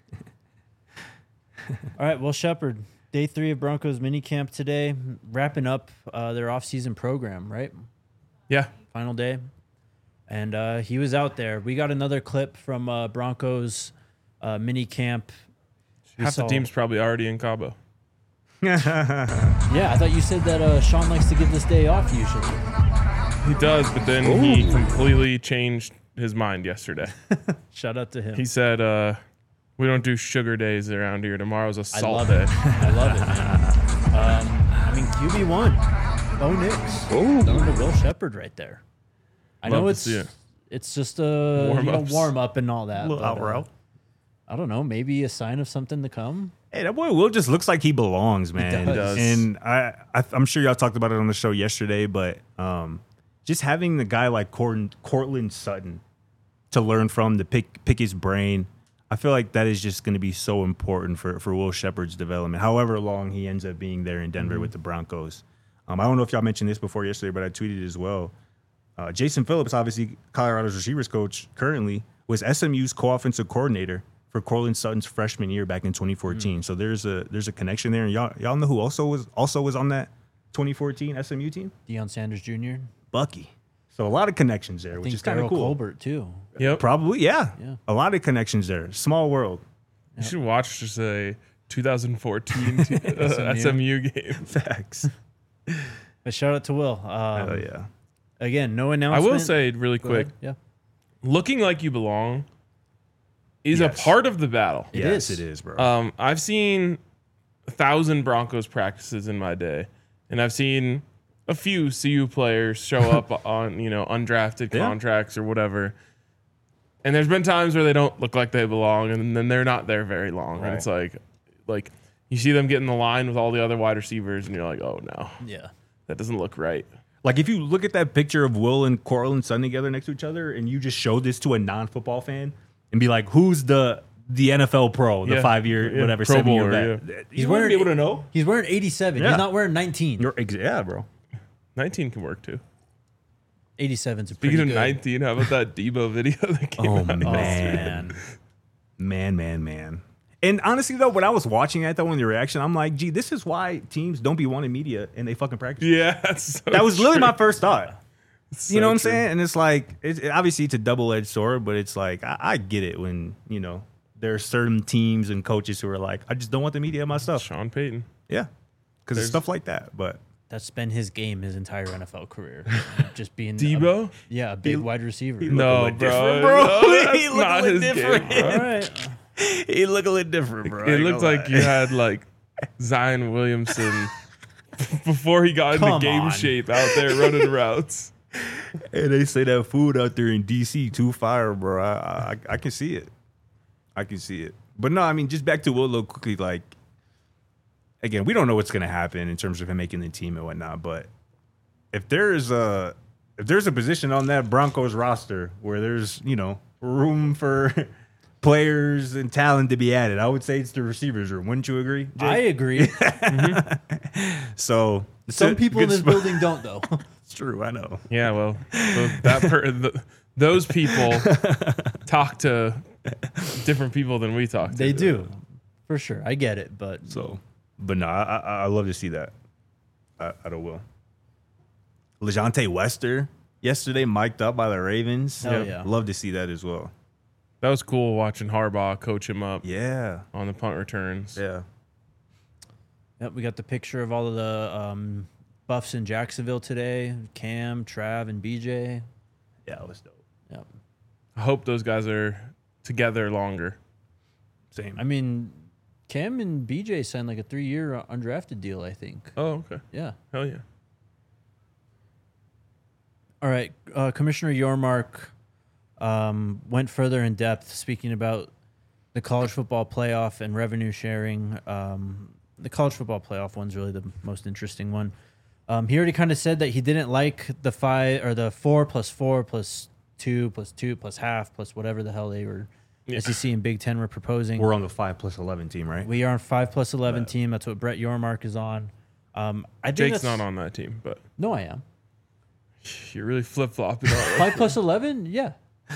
All right, well, Shepard, day three of Broncos minicamp today, wrapping up uh, their off-season program, right? yeah. Final day. And uh, he was out there. We got another clip from uh, Broncos uh, minicamp. We Half the saw- team's probably already in Cabo. Yeah, I thought you said that uh, Sean likes to give this day off usually. He does, but then he completely changed his mind yesterday. Shout out to him. He said, uh, "We don't do sugar days around here. Tomorrow's a I salt love day." it. I love it, man. Um, I mean, Q B one. Bo Nix. Throwing to Will Shepard right there. I Love know to it's see it. it's just a you know, Warm-ups. warm up and all that. A little but, out uh, route. I don't know. Maybe a sign of something to come. Hey, that boy Will just looks like he belongs, man. does. And I, I, I'm sure y'all talked about it on the show yesterday, but um, just having the guy like Cort- Cortland Sutton to learn from, to pick pick his brain, I feel like that is just going to be so important for, for Will Shepard's development, however long he ends up being there in Denver Mm-hmm. with the Broncos. Um, I don't know if y'all mentioned this before yesterday, but I tweeted as well. Uh, Jason Phillips, obviously Colorado's receivers coach currently, was S M U's co-offensive coordinator for Cortland Sutton's freshman year back in twenty fourteen. Mm. So there's a there's a connection there. And y'all y'all know who also was also was on that twenty fourteen S M U team? Deion Sanders Junior Bucky. So a lot of connections there, I which think is kind of Daryl cool. Colbert too. Yep. Probably, yeah. Yeah. A lot of connections there. Small world. You should watch just a twenty fourteen t- uh, S M U game. Facts. But shout out to Will. Um, Oh yeah. Again, no I announcement. will say really Go quick, ahead. Yeah. looking like you belong is Yes. a part of the battle. It yes, is. it is, bro. Um, I've seen a thousand Broncos practices in my day, and I've seen a few C U players show up on, you know, undrafted Yeah. contracts or whatever. And there's been times where they don't look like they belong, and then they're not there very long. Right. And it's like, like you see them get in the line with all the other wide receivers, and you're like, oh no, Yeah. that doesn't look right. Like if you look at that picture of Will and Cortland Sutton together next to each other, and you just show this to a non-football fan and be like, "Who's the the N F L pro, the Yeah. five year Yeah. whatever Pro seven year Bowler, vet?" He's You wouldn't wearing be able to know. He's wearing eighty-seven. Yeah. He's not wearing nineteen. You're ex- yeah, bro. nineteen can work too. eighty-seven's a pretty Speaking of good. nineteen, how about that Debo video that came Oh out? man. Man. Man, man, man. And honestly, though, when I was watching that, though, in the reaction, I'm like, gee, this is why teams don't be wanting media and they fucking practice. Yeah, that's so That was literally true. my first thought. It's You know so what I'm true. saying? And it's like, it's, it, obviously, it's a double edged sword, but it's like, I, I get it when, you know, there are certain teams and coaches who are like, I just don't want the media in my stuff. Sean Payton. Yeah. Because There's- it's stuff like that. But That's been his game his entire N F L career. Just being a- Debo? yeah, a big wide receiver. look a No, little bro. different, bro. No, He that's look a not little his different. game. All right. he look a little different, bro. It looked like you had like Zion Williamson before he got Come into game on. shape out there running routes. And they say that food out there in D C too fire, bro. I, I I can see it. I can see it. But no, I mean, just back to Will real quickly. Like, again, we don't know what's gonna happen in terms of him making the team and whatnot. But if there is a if there's a position on that Broncos roster where there's you know room for players and talent to be added, I would say it's the receivers room. Wouldn't you agree, Jake? I agree. so it's Some a people in good this spot. building don't, though. It's true. I know. Yeah, well, th- that per- th- those people talk to different people than we talk to. They do, for sure. I get it, but So, but no, I, I I love to see that. I, I don't will. LeJontay Wester yesterday mic'd up by the Ravens. Hell yeah. Love to see that as well. That was cool watching Harbaugh coach him up Yeah, on the punt returns. yeah. yep, we got the picture of all of the um, Buffs in Jacksonville today. Cam, Trav, and B J. Yeah, it was dope. Yep. I hope those guys are together longer. Same. I mean, Cam and B J signed like a three-year undrafted deal, I think. Oh, okay. Yeah. Hell yeah. All right. Uh, Commissioner Yormark um, went further in depth speaking about the college football playoff and revenue sharing. Um, the college football playoff one's really the most interesting one. Um, he already kind of said that he didn't like the five or the four plus four plus two plus two plus half plus whatever the hell they were Yeah. S E C and Big Ten were proposing. We're on the five plus eleven team, right? We are on five plus eleven Right. team. That's what Brett Yormark is on. Um, I think Jake's that's- not on that team, but No, I am. you're really flip flopping. Five plus eleven. Yeah.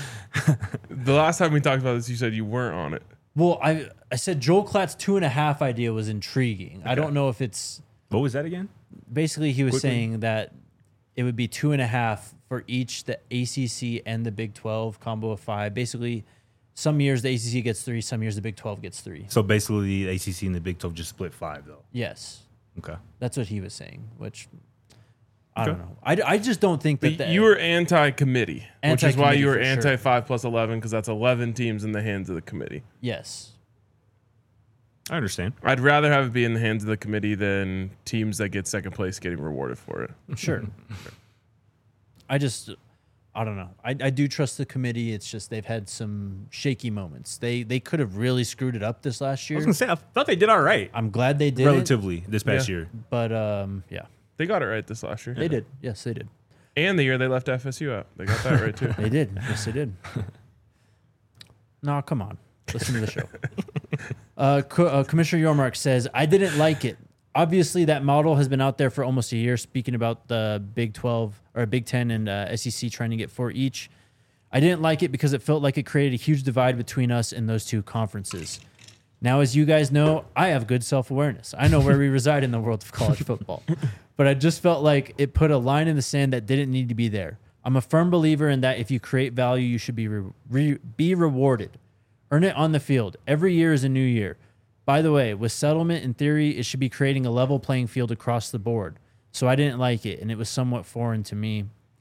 The last time we talked about this, you said you weren't on it. Well, I I said Joel Klatt's two and a half idea was intriguing. I don't know if it's What was that again? basically he was Quickly. saying that it would be two and a half for each the A C C and the Big twelve combo of five. Basically, some years the A C C gets three, some years the Big twelve gets three. So basically, the A C C and the Big twelve just split five, though. Yes, Okay. that's what he was saying. Which I Okay. don't know. I, I just don't think that But the, you were anti-committee, which is why Anti-committee you were for sure. anti-five plus eleven, because that's eleven teams in the hands of the committee. yes. I understand. I'd rather have it be in the hands of the committee than teams that get second place getting rewarded for it. Sure. I just, I don't know. I, I do trust the committee. It's just they've had some shaky moments. They they could have really screwed it up this last I year. was gonna say I thought they did all right, I'm glad they did, relatively, this past Yeah. year. but um, yeah, They got it right this last year. they did. Yes, they did. And the year they left F S U out. They got that right too. They did. Yes, they did. No, come on. Listen to the show. Uh, Co- uh, Commissioner Yormark says, I didn't like it. Obviously, that model has been out there for almost a year, speaking about the Big twelve or Big ten and uh, S E C trying to get four each. I didn't like it because it felt like it created a huge divide between us and those two conferences. Now, as you guys know, I have good self-awareness. I know where we reside in the world of college football. But I just felt like it put a line in the sand that didn't need to be there. I'm a firm believer in that if you create value, you should be re- re- be rewarded. Earn it on the field. Every year is a new year. By the way, with settlement, in theory, it should be creating a level playing field across the board. So I didn't like it, and it was somewhat foreign to me.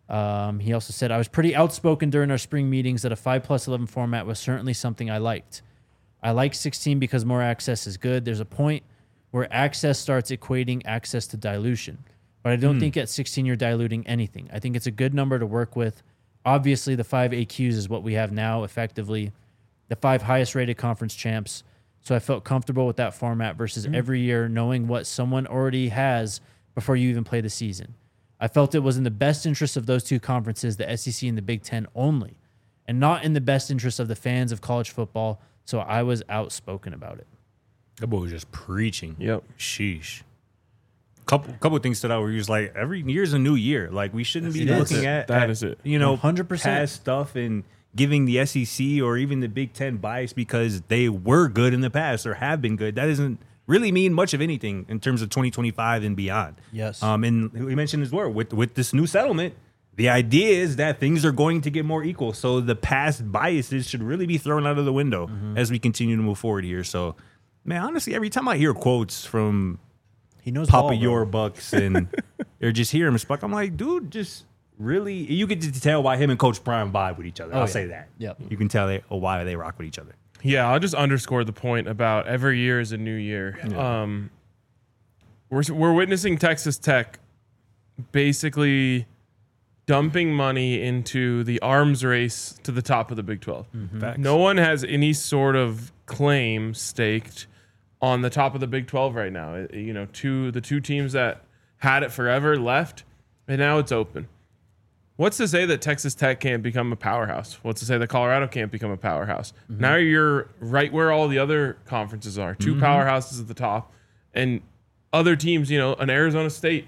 Um, he also said, I was pretty outspoken during our spring meetings that a five plus eleven format was certainly something I liked. I like sixteen because more access is good. There's a point where access starts equating access to dilution. But I don't think at sixteen you're diluting anything. I think it's a good number to work with. Obviously, the five A Qs is what we have now, effectively. The five highest rated conference champs. So I felt comfortable with that format versus every year knowing what someone already has before you even play the season. I felt it was in the best interest of those two conferences, the S E C and the Big Ten only, and not in the best interest of the fans of college football. So I was outspoken about it. That boy was just preaching. Yep. Sheesh. Couple couple things stood out where he was like, every year's a new year. Like, we shouldn't be It is. looking at That at, is it. You know, one hundred percent. past stuff and giving the S E C or even the Big Ten bias because they were good in the past or have been good. That doesn't really mean much of anything in terms of twenty twenty-five and beyond. Yes. Um, and we mentioned as well with with this new settlement, the idea is that things are going to get more equal. So the past biases should really be thrown out of the window Mm-hmm. as we continue to move forward here. So, man, honestly, every time I hear quotes from He knows Papa ball, bro. Your Bucks and or just hear him speak, I'm like, dude, just really, you can just tell why him and Coach Prime vibe with each other. Oh, I'll yeah. say that. Yep. You can tell they, oh, why they rock with each other. Yeah, I'll just underscore the point about every year is a new year. Um, we're we're witnessing Texas Tech basically dumping money into the arms race to the top of the Big twelve. Facts. No one has any sort of claim staked on the top of the Big twelve right now. It- you know, two the two teams that had it forever left, and now it's open. What's to say that Texas Tech can't become a powerhouse? What's to say that Colorado can't become a powerhouse? Now you're right where all the other conferences are. Two powerhouses at the top, and other teams, you know, an Arizona State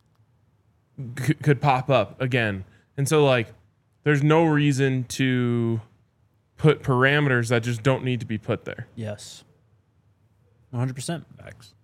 c- could pop up again. And so, like, there's no reason to put parameters that just don't need to be put there. Yes. one hundred percent. Facts.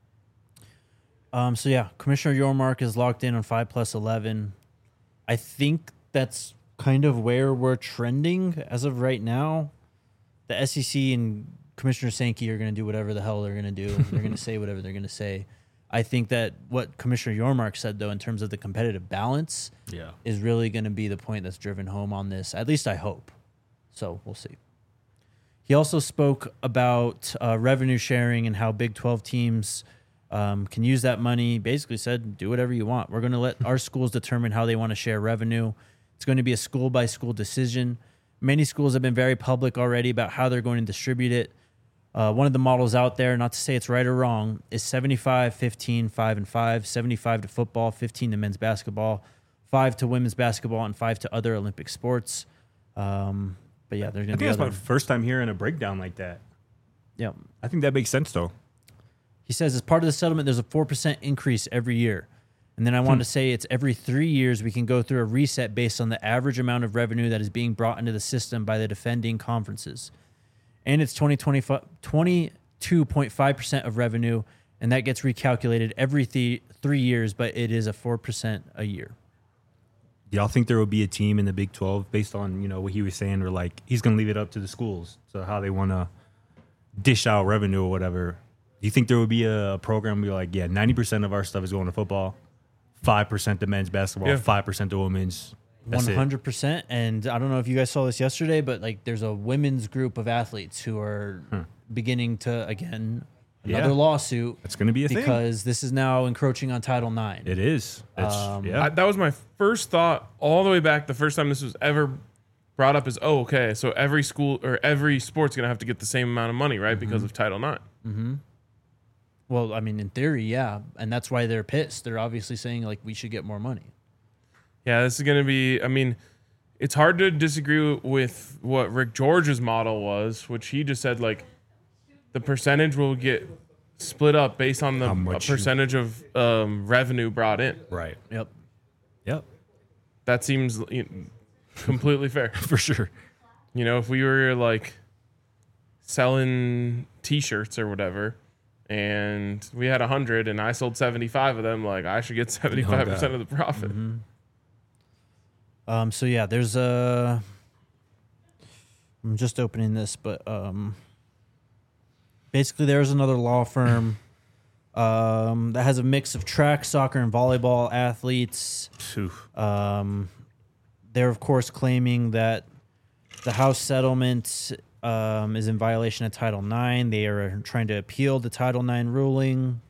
Um, so, yeah, Commissioner Yormark is locked in on five plus eleven. I think that's kind of where we're trending as of right now. The S E C and Commissioner Sankey are going to do whatever the hell they're going to do. They're going to say whatever they're going to say. I think that what Commissioner Yormark said, though, in terms of the competitive balance, Yeah. is really going to be the point that's driven home on this. At least I hope. So we'll see. He also spoke about uh, revenue sharing and how Big twelve teams um, can use that money. Basically said, do whatever you want. We're going to let our schools determine how they want to share revenue. It's going to be a school-by-school decision. Many schools have been very public already about how they're going to distribute it. Uh, one of the models out there, not to say it's right or wrong, is seventy-five, fifteen, five, and five. seventy-five to football, fifteen to men's basketball, five to women's basketball, and five to other Olympic sports. Um, but yeah, there's I going to think be that's other. my first time hearing a breakdown like that. Yeah. I think that makes sense, though. He says, as part of the settlement, there's a four percent increase every year. And then I wanted to say it's every three years we can go through a reset based on the average amount of revenue that is being brought into the system by the defending conferences. And it's twenty-two point five percent of revenue, and that gets recalculated every th- three years, but it is a four percent a year. Do y'all think there will be a team in the Big twelve based on, you know, what he was saying, or like he's going to leave it up to the schools, so how they want to dish out revenue or whatever? Do you think there would be a, a program where like, yeah, ninety percent of our stuff is going to football, five percent to men's basketball, Yeah. five percent to women's? That's One it. hundred percent. And I don't know if you guys saw this yesterday, but like there's a women's group of athletes who are beginning to, again, another Yeah. lawsuit. It's going to be a thing. because this is now encroaching on Title nine. It is. It's, Um, yeah. I, that was my first thought all the way back. The first time this was ever brought up is, oh, okay, so every school or every sport's going to have to get the same amount of money, right? Because of Title nine. Well, I mean, in theory, yeah. And that's why they're pissed. They're obviously saying, like, we should get more money. Yeah, this is going to be, I mean, it's hard to disagree with what Rick George's model was, which he just said, like, the percentage will get split up based on the How a much you- percentage of um, revenue brought in. right. Yep. Yep. That seems you know, completely fair. For sure. You know, if we were, like, selling T-shirts or whatever, and we had one hundred and I sold seventy-five of them, like, I should get seventy-five percent of the profit. Um, so, yeah, there's a... I'm just opening this, but um, basically there's another law firm um, that has a mix of track, soccer, and volleyball athletes. Phew. Um, they're, of course, claiming that the House settlement um, is in violation of Title nine. They are trying to appeal the Title nine ruling.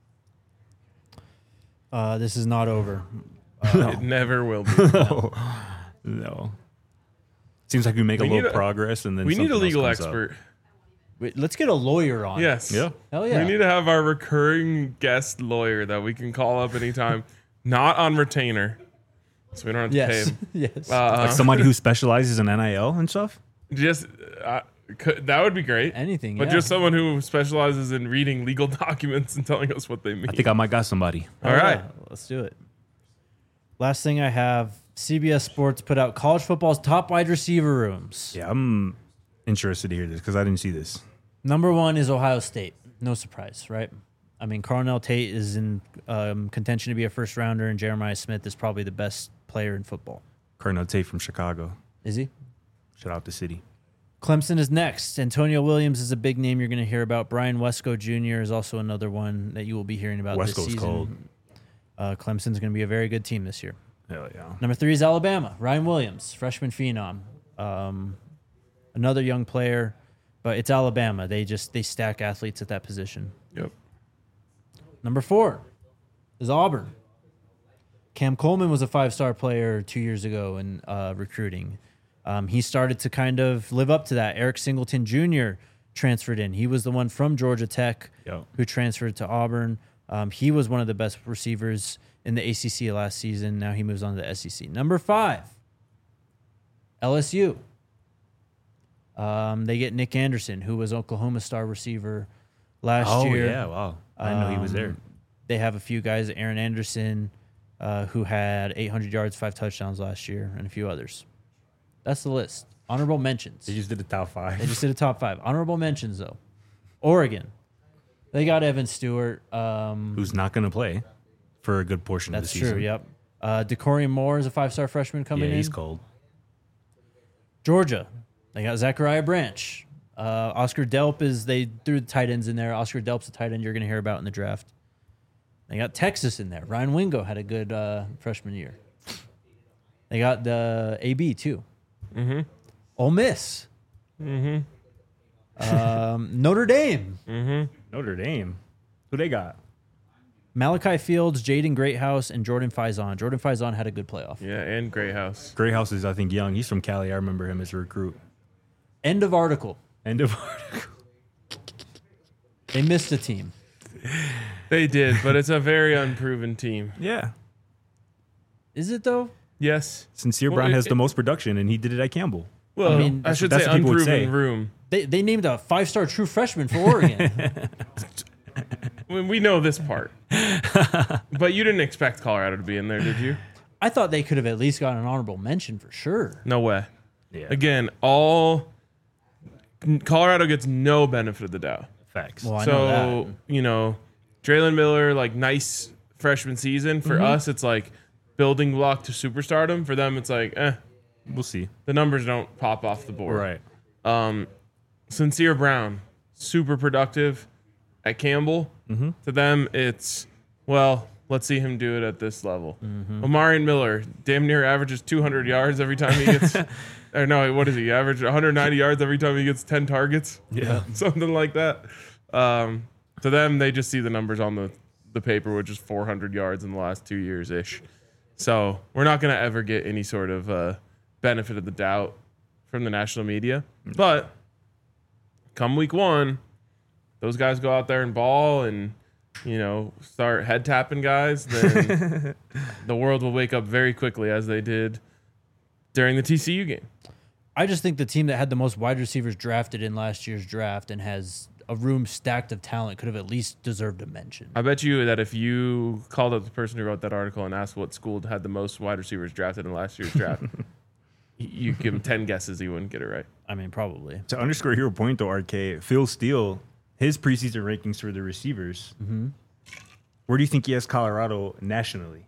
Uh, this is not over. It never will be. no. no. Seems like we make We a need little a- progress, and then We need a something else legal comes up. expert. Wait, let's get a lawyer on. Yes. Yeah. Hell yeah. We need to have our recurring guest lawyer that we can call up anytime, not on retainer, so we don't have to Yes. pay him. yes. Uh, Like somebody who specializes in N I L and stuff. just uh, could, that would be great. Anything. But yeah. just someone who specializes in reading legal documents and telling us what they mean. I think I might got somebody. Hell All yeah. right. Let's do it. Last thing I have, C B S Sports put out college football's top wide receiver rooms. Yeah, I'm interested to hear this because I didn't see this. Number one is Ohio State. No surprise, right? I mean, Carnell Tate is in um, contention to be a first rounder, and Jeremiah Smith is probably the best player in football. Cardinal Tate from Chicago. Is he? Shout out the city. Clemson is next. Antonio Williams is a big name you're going to hear about. Brian Wesco Junior is also another one that you will be hearing about this Wesco's season. cold. Uh, Clemson's going to be a very good team this year. Hell yeah. Number three is Alabama. Ryan Williams, freshman phenom. Um, another young player, but it's Alabama. They just they stack athletes at that position. Yep. Number four is Auburn. Cam Coleman was a five-star player two years ago in uh, recruiting. Um, he started to kind of live up to that. Eric Singleton Junior transferred in. He was the one from Georgia Tech Yo. who transferred to Auburn. Um, he was one of the best receivers in the A C C last season. Now he moves on to the S E C. Number five, L S U. Um, they get Nick Anderson, who was Oklahoma star receiver last Oh, year. yeah. Wow. I didn't know he was there. Um, They have a few guys, Aaron Anderson, uh, who had eight hundred yards, five touchdowns last year, and a few others. That's the list. Honorable mentions. They just did the top They five. just did a top five. Honorable mentions, though. Oregon. They got Evan Stewart. Um, Who's not going to play for a good portion that's of the season. true, yep. Uh, DeCorian Moore is a five-star freshman coming Yeah, in. he's cold. Georgia. They got Zachariah Branch. Uh, Oscar Delp is, they threw the tight ends in there. Oscar Delp's a tight end you're going to hear about in the draft. They got Texas in there. Ryan Wingo had a good uh, freshman year. They got the A B, too. Mm-hmm. Ole Miss. Mm-hmm. Um, Notre Dame. Mm-hmm. Notre Dame. Who they got? Malachi Fields, Jaden Greathouse, and Jordan Faison. Jordan Faison had a good playoff. Yeah, and Greyhouse. Greathouse is, I think, young. He's from Cali. I remember him as a recruit. End of article. End of article. They missed a team. They did, but it's a very unproven team. Yeah. Is it, though? Yes. Sincere Well, Brown it- has the most production, and he did it at Campbell. Well, I, mean, mean, I that's should what- say that's what people would unproven say. room. They, they named a five-star true freshman for Oregon. I mean, we know this part. But you didn't expect Colorado to be in there, did you? I thought they could have at least got an honorable mention for sure. No way. Yeah. Again, all Colorado gets no benefit of the doubt. Facts. Well, I know So, that. you know, Draylen Miller, like nice freshman season. For Mm-hmm. us, it's like building block to superstardom. For them, it's like, eh, We'll see. the numbers don't pop off the board. Right. Um, Sincere Brown, super productive at Campbell. Mm-hmm. To them, it's, well, let's see him do it at this level. Mm-hmm. Omarion Miller, damn near averages two hundred yards every time he gets, or no, what is he? Average one hundred ninety yards every time he gets ten targets. Yeah. Something like that. Um, to them, they just see the numbers on the, the paper, which is four hundred yards in the last two years ish. So we're not going to ever get any sort of uh, benefit of the doubt from the national media. But come week one, those guys go out there and ball and, you know, start head tapping guys, then the world will wake up very quickly, as they did during the T C U game. I just think the team that had the most wide receivers drafted in last year's draft and has a room stacked of talent could have at least deserved a mention. I bet you that if you called up the person who wrote that article and asked what school had the most wide receivers drafted in last year's draft, you give him ten guesses, he wouldn't get it right. I mean, probably. To underscore your point, though, R K, Phil Steele, his preseason rankings for the receivers, Mm-hmm. where do you think he has Colorado nationally?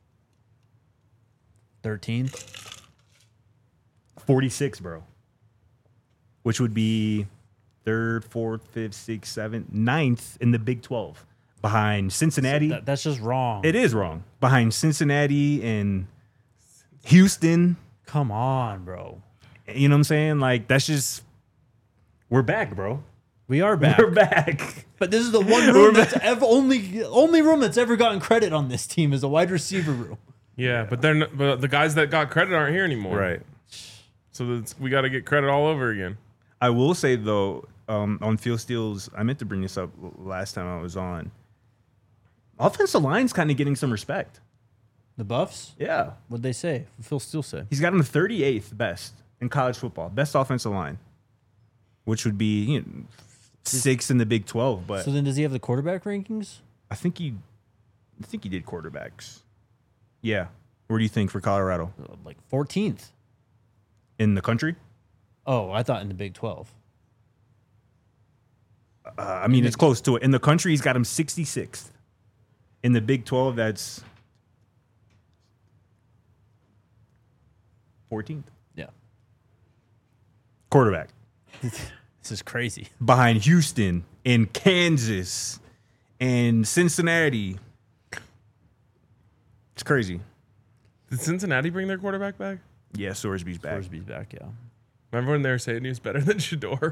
thirteenth. forty-six, bro. Which would be third, fourth, fifth, sixth, seventh, ninth in the Big twelve. Behind Cincinnati. That, that's just wrong. It is wrong. Behind Cincinnati and Houston. Come on, bro. You know what I'm saying? Like, that's just, we're back, bro. We are back. We're back. But this is the one room that's ever only only room that's ever gotten credit on this team is the wide receiver room. Yeah, but they're not, but the guys that got credit aren't here anymore. Right. So that's, we got to get credit all over again. I will say, though, um, on Field Steals, I meant to bring this up last time I was on. Offensive line's kind of getting some respect. The Buffs? Yeah. What'd they say? What Phil Steele say? He's got him thirty-eighth best in college football. Best offensive line, which would be you know, sixth in the Big twelve. But So then does he have the quarterback rankings? I think he, I think he did quarterbacks. Yeah. Where do you think for Colorado? Uh, Like fourteenth. In the country? Oh, I thought in the Big twelve. Uh, I mean, it's close to it. In the country, he's got him sixty-sixth. In the Big twelve, that's fourteenth. Yeah. Quarterback. This is crazy. Behind Houston and Kansas and Cincinnati. It's crazy. Did Cincinnati bring their quarterback back? Yeah, Sorsby's back. Forsby's back, yeah. Remember when they were saying he was better than Shador?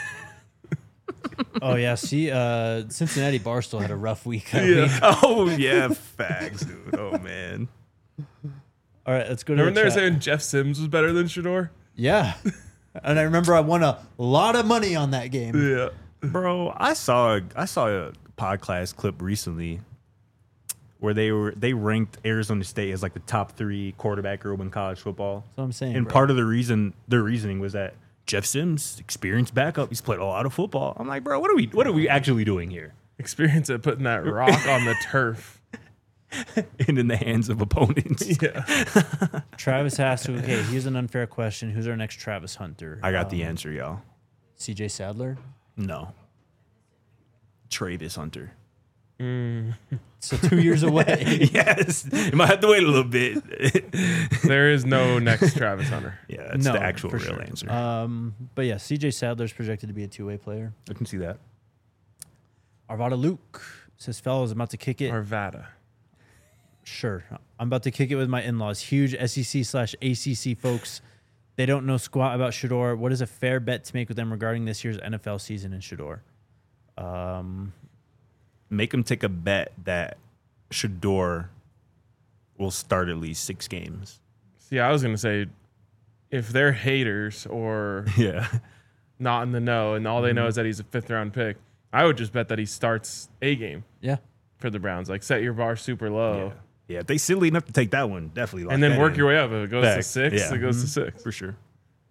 Oh yeah, see, uh, Cincinnati Barstool had a rough week. that Yeah. week. Oh, yeah, facts, dude. Oh, man. All right, let's go to Remember the when they were chat. saying Jeff Sims was better than Shador? Yeah. And I remember I won a lot of money on that game. Yeah. Bro, I saw a, I saw a podcast clip recently where they were they ranked Arizona State as like the top three quarterback group in college football. That's what I'm saying. And bro. part of the reason, their reasoning was that Jeff Sims, experienced backup, he's played a lot of football. I'm like, bro, what are we what are we actually doing here? Experience at putting that rock on the turf. And in the hands of opponents. Yeah. Travis has to. Okay, here's an unfair question. Who's our next Travis Hunter? I got the Um, answer, y'all. C J Sadler. No. Travis Hunter. So two years away. Yes. You might have to wait a little bit. There is no next Travis Hunter. Yeah, that's No, the actual for real sure. answer. Um, but yeah, C J Sadler's projected to be a two-way player. I can see that. Arvada Luke says, "Fellas, I'm about to kick it. Arvada. Sure, I'm about to kick it with my in-laws. Huge S E C slash A C C folks. They don't know squat about Shador. What is a fair bet to make with them regarding this year's N F L season in Shador? Um, Make him take a bet that Shador will start at least six games. See, I was going to say, if they're haters or Yeah. not in the know and all they know is that he's a fifth round pick, I would just bet that he starts a game yeah, for the Browns. Like, set your bar super low. Yeah. Yeah, if they silly enough to take that one, definitely. lock And then that work in. your way up. If it goes to Back. six, Yeah. it goes Mhm. to six. For sure.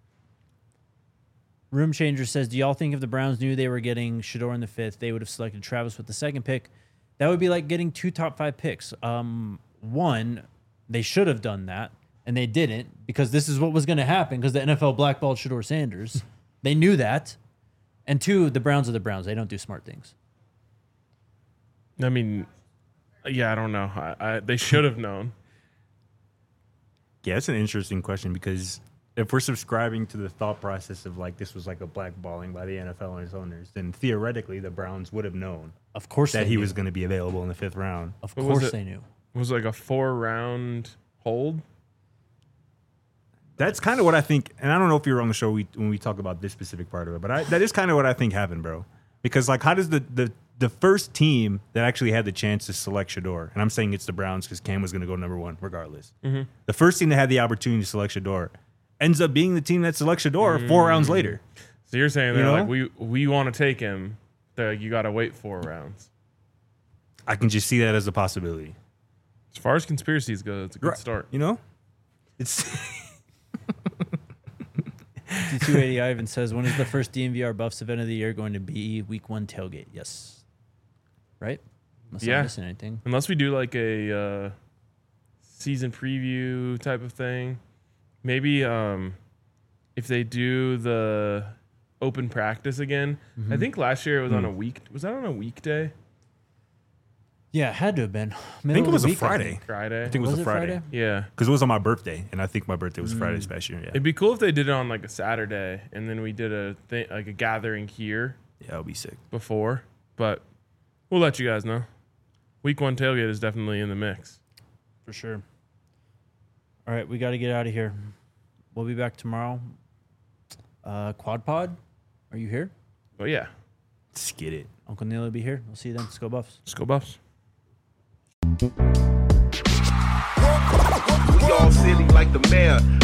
Room Changer says, do y'all think if the Browns knew they were getting Shador in the fifth, they would have selected Travis with the second pick? That would be like getting two top five picks. Um, one, they should have done that, and they didn't because this is what was going to happen because the N F L blackballed Shador Sanders. They knew that. And two, the Browns are the Browns. They don't do smart things. I mean, yeah, I don't know. I, I, they should have known. Yeah, it's an interesting question because if we're subscribing to the thought process of like this was like a blackballing by the N F L and its owners, then theoretically the Browns would have known Of course that they he knew. was going to be available in the fifth round. Of What was course it? they knew. It was like a four round hold. That's kind of what I think, and I don't know if you were on the show we, when we talk about this specific part of it, but I, that is kind of what I think happened, bro. Because like, how does the the the first team that actually had the chance to select Shador, and I'm saying it's the Browns because Cam was going to go number one regardless. Mm-hmm. The first team that had the opportunity to select Shador ends up being the team that selects Shador four rounds later. So you're saying You they're know? like, we we want to take him. They're like, you got to wait four rounds. I can just see that as a possibility. As far as conspiracies go, it's a good Right. start. You know, it's T two eighty Ivan says, when is the first D N V R Buffs event of the year going to be? Week one tailgate. Yes. Right? Unless Yeah. I'm missing anything. Unless we do like a uh, season preview type of thing. Maybe um, if they do the open practice again. I think last year it was on a week. Was that on a weekday? Yeah, it had to have been. I think it was a Friday. Friday? I think it was, Was a it Friday Friday? Yeah. because it was on my birthday, and I think my birthday was Friday this past year. Yeah, It'd be cool if they did it on like a Saturday and then we did a thing, like a gathering here yeah, that'll be sick. before. But we'll let you guys know. Week one tailgate is definitely in the mix. For sure. All right, we got to get out of here. we'll be back tomorrow. Uh, Quad Pod, are you here? Oh yeah, Let's get it. Uncle Neil will be here. We'll see you then. Let's go Buffs. let's go Buffs. We all silly like the mayor.